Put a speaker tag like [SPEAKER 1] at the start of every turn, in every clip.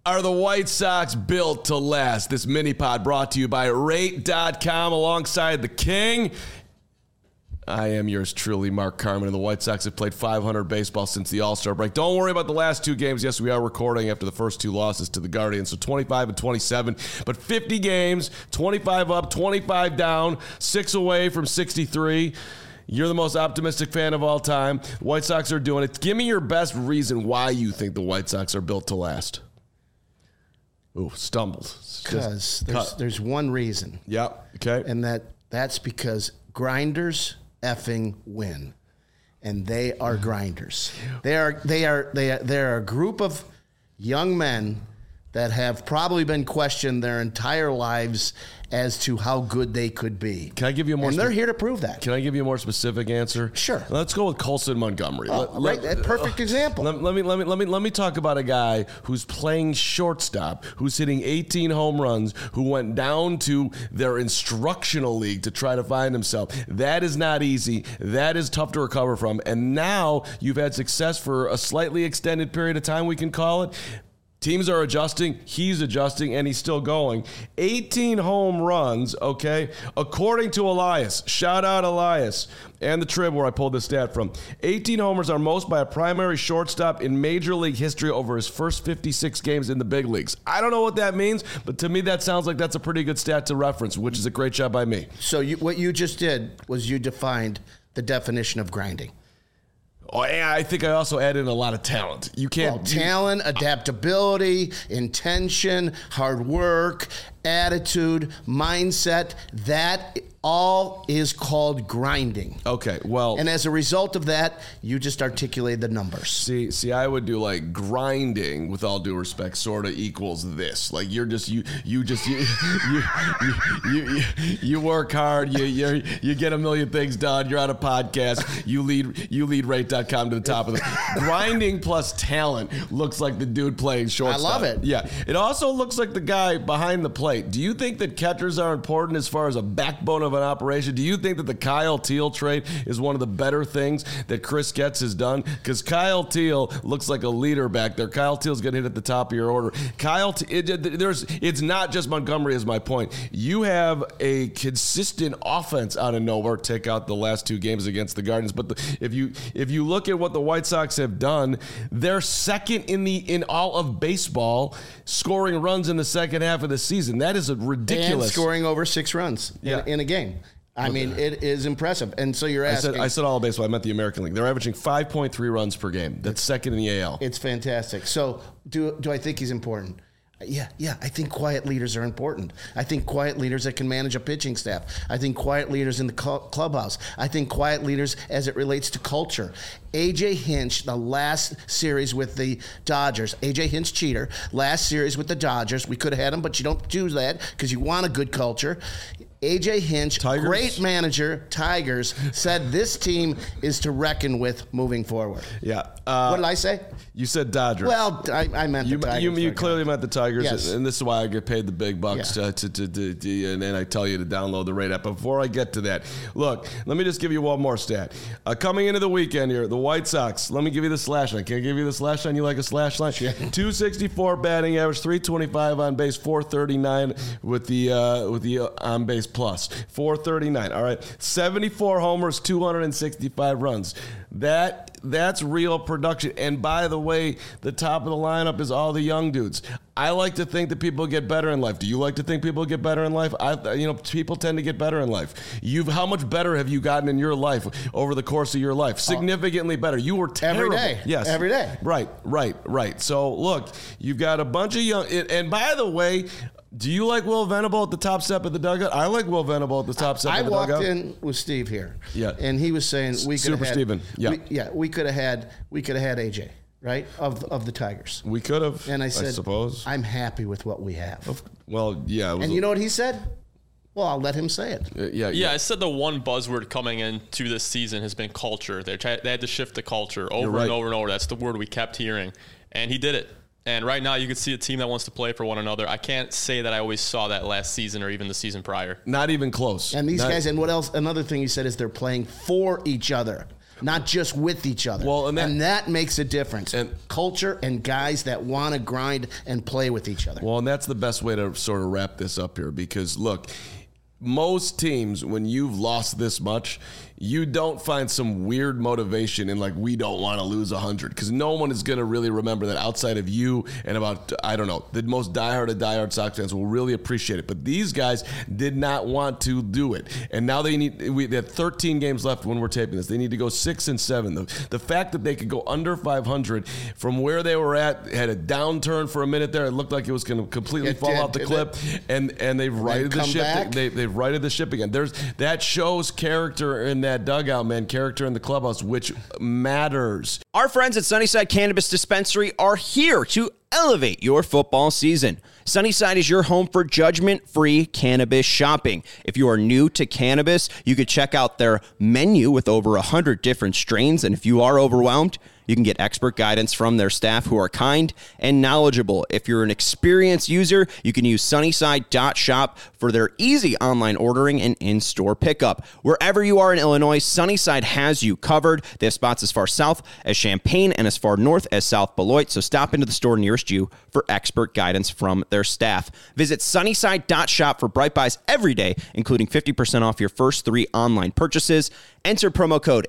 [SPEAKER 1] Are the White Sox built to last? This mini pod brought to you by Rate.com alongside the King. I am yours truly, Mark Carman, and the White Sox have played 500 baseball since the All-Star break. Don't worry about the last two games. Yes, we are recording after the first two losses to the Guardians, so 25 and 27. But 50 games, 25 up, 25 down, 6 away from 63. You're the most optimistic fan of all time. White Sox are doing it. Give me your best reason why you think the White Sox are built to last. Ooh, stumbled.
[SPEAKER 2] Because there's one reason.
[SPEAKER 1] Yep. Okay.
[SPEAKER 2] And that's because grinders effing win. And they are grinders. They are a group of young men that have probably been questioned their entire lives as to how good they could be.
[SPEAKER 1] Can I give you a more?
[SPEAKER 2] And they're here to prove that.
[SPEAKER 1] Can I give you a more specific answer?
[SPEAKER 2] Sure.
[SPEAKER 1] Let's go with Colson Montgomery.
[SPEAKER 2] Right, a perfect example.
[SPEAKER 1] Let me talk about a guy who's playing shortstop, who's hitting 18 home runs, who went down to their instructional league to try to find himself. That is not easy. That is tough to recover from. And now you've had success for a slightly extended period of time, we can call it. Teams are adjusting, he's adjusting, and he's still going. 18 home runs, okay? According to Elias, shout out Elias, and the Trib where I pulled this stat from. 18 homers are most by a primary shortstop in Major League history over his first 56 games in the big leagues. I don't know what that means, but to me that sounds like that's a pretty good stat to reference, which is a great job by me.
[SPEAKER 2] So what you just did was you defined the definition of grinding.
[SPEAKER 1] Oh, and I think I also added in a lot of talent. You can't...
[SPEAKER 2] talent, adaptability, intention, hard work, attitude, mindset, that all is called grinding.
[SPEAKER 1] Okay, well...
[SPEAKER 2] And as a result of that, you just articulated the numbers.
[SPEAKER 1] See, I would do like grinding, with all due respect, sort of equals this. Like you work hard, you get a million things done, you're on a podcast, you lead Rate.com to the top of the... Grinding plus talent looks like the dude playing shortstop.
[SPEAKER 2] I love it.
[SPEAKER 1] Yeah, it also looks like the guy behind the plate. Do you think that catchers are important as far as a backbone of an operation? Do you think that the Kyle Teel trade is one of the better things that Chris Getz has done? Because Kyle Teel looks like a leader back there. Kyle Teel's going to hit at the top of your order. It's not just Montgomery is my point. You have a consistent offense out of nowhere. Take out the last two games against the Guardians, but if you look at what the White Sox have done, they're second in all of baseball scoring runs in the second half of the season. That is a ridiculous.
[SPEAKER 2] And scoring over 6 runs in a game. I mean, it is impressive. And so you're asking.
[SPEAKER 1] I said all of baseball. I meant the American League. They're averaging 5.3 runs per game. That's second in the AL.
[SPEAKER 2] It's fantastic. So do I think he's important? Yeah. I think quiet leaders are important. I think quiet leaders that can manage a pitching staff. I think quiet leaders in the clubhouse. I think quiet leaders as it relates to culture. A.J. Hinch, the last series with the Dodgers. A.J. Hinch, cheater. Last series with the Dodgers. We could have had him, but you don't do that because you want a good culture. A.J. Hinch,
[SPEAKER 1] Tigers?
[SPEAKER 2] Great manager, Tigers, said this team is to reckon with moving forward.
[SPEAKER 1] Yeah.
[SPEAKER 2] What did I say?
[SPEAKER 1] You said Dodgers.
[SPEAKER 2] Well, I meant the Tigers.
[SPEAKER 1] You clearly meant the Tigers,
[SPEAKER 2] yes.
[SPEAKER 1] And this is why I get paid the big bucks and I tell you to download the Rate app. But before I get to that, look, let me just give you one more stat. Coming into the weekend here, the White Sox, let me give you the slash line. Can I give you the slash line? You like a slash line? Yeah. 264 batting average, 325 on base, 439 with the on base plus. 439. All right. 74 homers, 265 runs. That's real production. And by the way, the top of the lineup is all the young dudes. I like to think that people get better in life. Do you like to think people get better in life? People tend to get better in life. How much better have you gotten in your life over the course of your life? Significantly better. You were terrible.
[SPEAKER 2] Every day.
[SPEAKER 1] Yes.
[SPEAKER 2] Every day.
[SPEAKER 1] Right. So look, you've got a bunch of young, and by the way, do you like Will Venable at the top step of the dugout? I like Will Venable at the top step of the dugout.
[SPEAKER 2] I walked in with Steve here.
[SPEAKER 1] Yeah.
[SPEAKER 2] And he was saying we could
[SPEAKER 1] Super
[SPEAKER 2] have had
[SPEAKER 1] Steven. Yeah.
[SPEAKER 2] We could have had AJ, right? Of the Tigers.
[SPEAKER 1] We could have.
[SPEAKER 2] And I said,
[SPEAKER 1] suppose.
[SPEAKER 2] I'm happy with what we have.
[SPEAKER 1] Well, yeah.
[SPEAKER 2] And you know what he said? Well, I'll let him say it.
[SPEAKER 3] Yeah, I said the one buzzword coming into this season has been culture. They had to shift the culture over and over and over. That's the word we kept hearing. And he did it. And right now you can see a team that wants to play for one another. I can't say that I always saw that last season or even the season prior.
[SPEAKER 1] Not even close.
[SPEAKER 2] And these guys, and what else? Another thing you said is they're playing for each other. not just with each other.
[SPEAKER 1] Well,
[SPEAKER 2] and that makes a difference. And culture and guys that want to grind and play with each other.
[SPEAKER 1] Well, and that's the best way to sort of wrap this up here, because look, most teams, when you've lost this much, you don't find some weird motivation in like, we don't want to lose 100, because no one is going to really remember that outside of you and about, I don't know, the most diehard of diehard Sox fans will really appreciate it. But these guys did not want to do it. And now they have 13 games left when we're taping this. They need to go 6-7. The fact that they could go under 500 from where they were at, had a downturn for a minute there. It looked like it was going to completely fall off the cliff. And they've righted the ship. They've righted the ship again. That shows character in that dugout, man, character in the clubhouse, which matters.
[SPEAKER 4] Our friends at Sunnyside Cannabis Dispensary are here to elevate your football season. Sunnyside is your home for judgment-free cannabis shopping. If you are new to cannabis, you could check out their menu with over 100 different strains, and if you are overwhelmed, you can get expert guidance from their staff who are kind and knowledgeable. If you're an experienced user, you can use Sunnyside.shop for their easy online ordering and in-store pickup. Wherever you are in Illinois, Sunnyside has you covered. They have spots as far south as Champaign and as far north as South Beloit, so stop into the store nearest you for expert guidance from their staff. Visit Sunnyside.shop for Bright Buys every day, including 50% off your first 3 online purchases. Enter promo code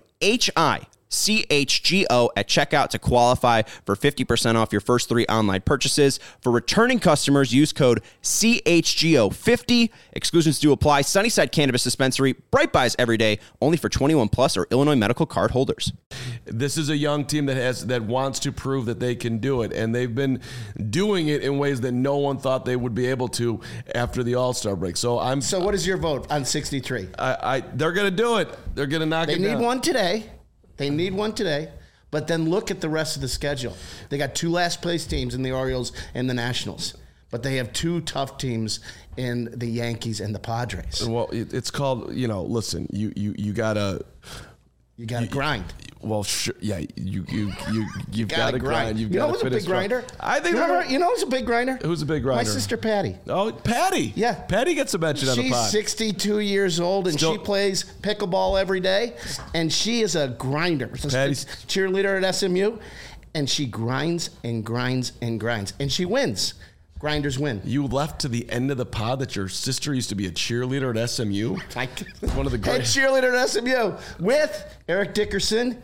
[SPEAKER 4] HICHGO at checkout to qualify for 50% off your first 3 online purchases. For returning customers, use code CHGO50. Exclusions do apply. Sunnyside Cannabis Dispensary, Bright Buys every day, only for 21 plus or Illinois medical card holders.
[SPEAKER 1] This is a young team that wants to prove that they can do it, and they've been doing it in ways that no one thought they would be able to after the All-Star break. So
[SPEAKER 2] what is your vote on 63?
[SPEAKER 1] They're going to do it. They're going to knock it down.
[SPEAKER 2] They need one today. They need one today, but then look at the rest of the schedule. They got 2 last-place teams in the Orioles and the Nationals, but they have 2 tough teams in the Yankees and the Padres.
[SPEAKER 1] Well, it's called, listen, you gotta
[SPEAKER 2] grind.
[SPEAKER 1] Well, sure, yeah, you've got to grind. You've got to finish.
[SPEAKER 2] Who's a big grinder?
[SPEAKER 1] I think.
[SPEAKER 2] You know who's a big grinder?
[SPEAKER 1] Who's a big grinder?
[SPEAKER 2] My sister Patty.
[SPEAKER 1] Oh, Patty.
[SPEAKER 2] Yeah,
[SPEAKER 1] Patty gets a mention on the pod.
[SPEAKER 2] She's 62 years old and she plays pickleball every day, and she is a grinder. Patty's cheerleader at SMU, and she grinds and grinds and grinds, and she wins. Grinders win.
[SPEAKER 1] You left to the end of the pod that your sister used to be a cheerleader at SMU. One of the great
[SPEAKER 2] cheerleader at SMU with Eric Dickerson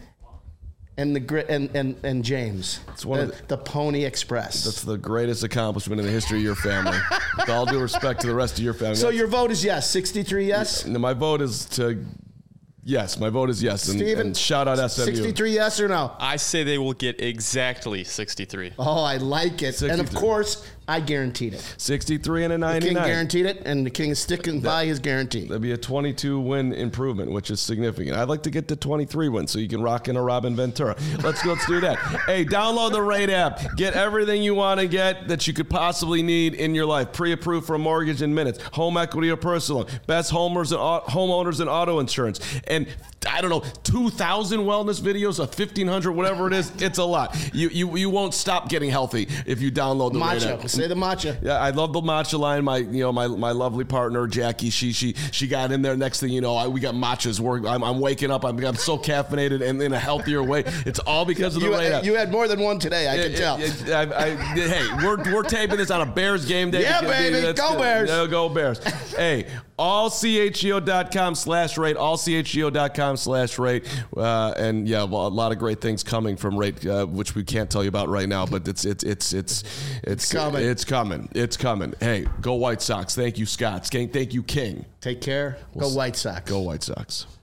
[SPEAKER 2] and James. It's the Pony Express.
[SPEAKER 1] That's the greatest accomplishment in the history of your family. With all due respect to the rest of your family.
[SPEAKER 2] So your vote is yes, 63 yes?
[SPEAKER 1] No, my vote is to. Yes, my vote is yes.
[SPEAKER 2] Steven,
[SPEAKER 1] and shout out SMU.
[SPEAKER 2] 63 yes or no?
[SPEAKER 3] I say they will get exactly 63.
[SPEAKER 2] Oh, I like it. 63. And of course, I guaranteed it.
[SPEAKER 1] 63 and a 99.
[SPEAKER 2] The King guaranteed it, and the King is sticking by his guarantee.
[SPEAKER 1] That'd be a 22-win improvement, which is significant. I'd like to get to 23 wins so you can rock in a Robin Ventura. Let's do that. Hey, download the Rate app. Get everything you want to get that you could possibly need in your life. Pre-approved for a mortgage in minutes. Home equity or personal loan. Best homeowners and auto insurance. And I don't know, 2,000 wellness videos, 1,500, whatever it is. It's a lot. You won't stop getting healthy if you download the Rate app.
[SPEAKER 2] Say the matcha.
[SPEAKER 1] Yeah, I love the matcha line. My lovely partner Jackie, she got in there. Next thing you know, we got matchas. I'm waking up. I'm so caffeinated and in a healthier way. It's all because of the Rate app.
[SPEAKER 2] You had more than one today. I can tell.
[SPEAKER 1] Hey, we're taping this on a Bears game day.
[SPEAKER 2] Yeah, baby, go Bears.
[SPEAKER 1] Go Bears. Hey, allchgo.com/rate. Allchgo.com/rate. And yeah, well, a lot of great things coming from Rate, which we can't tell you about right now, but it's coming. It's coming. Hey, go White Sox. Thank you, Scott. Thank you, King.
[SPEAKER 2] Take care. Go White Sox.
[SPEAKER 1] Go White Sox.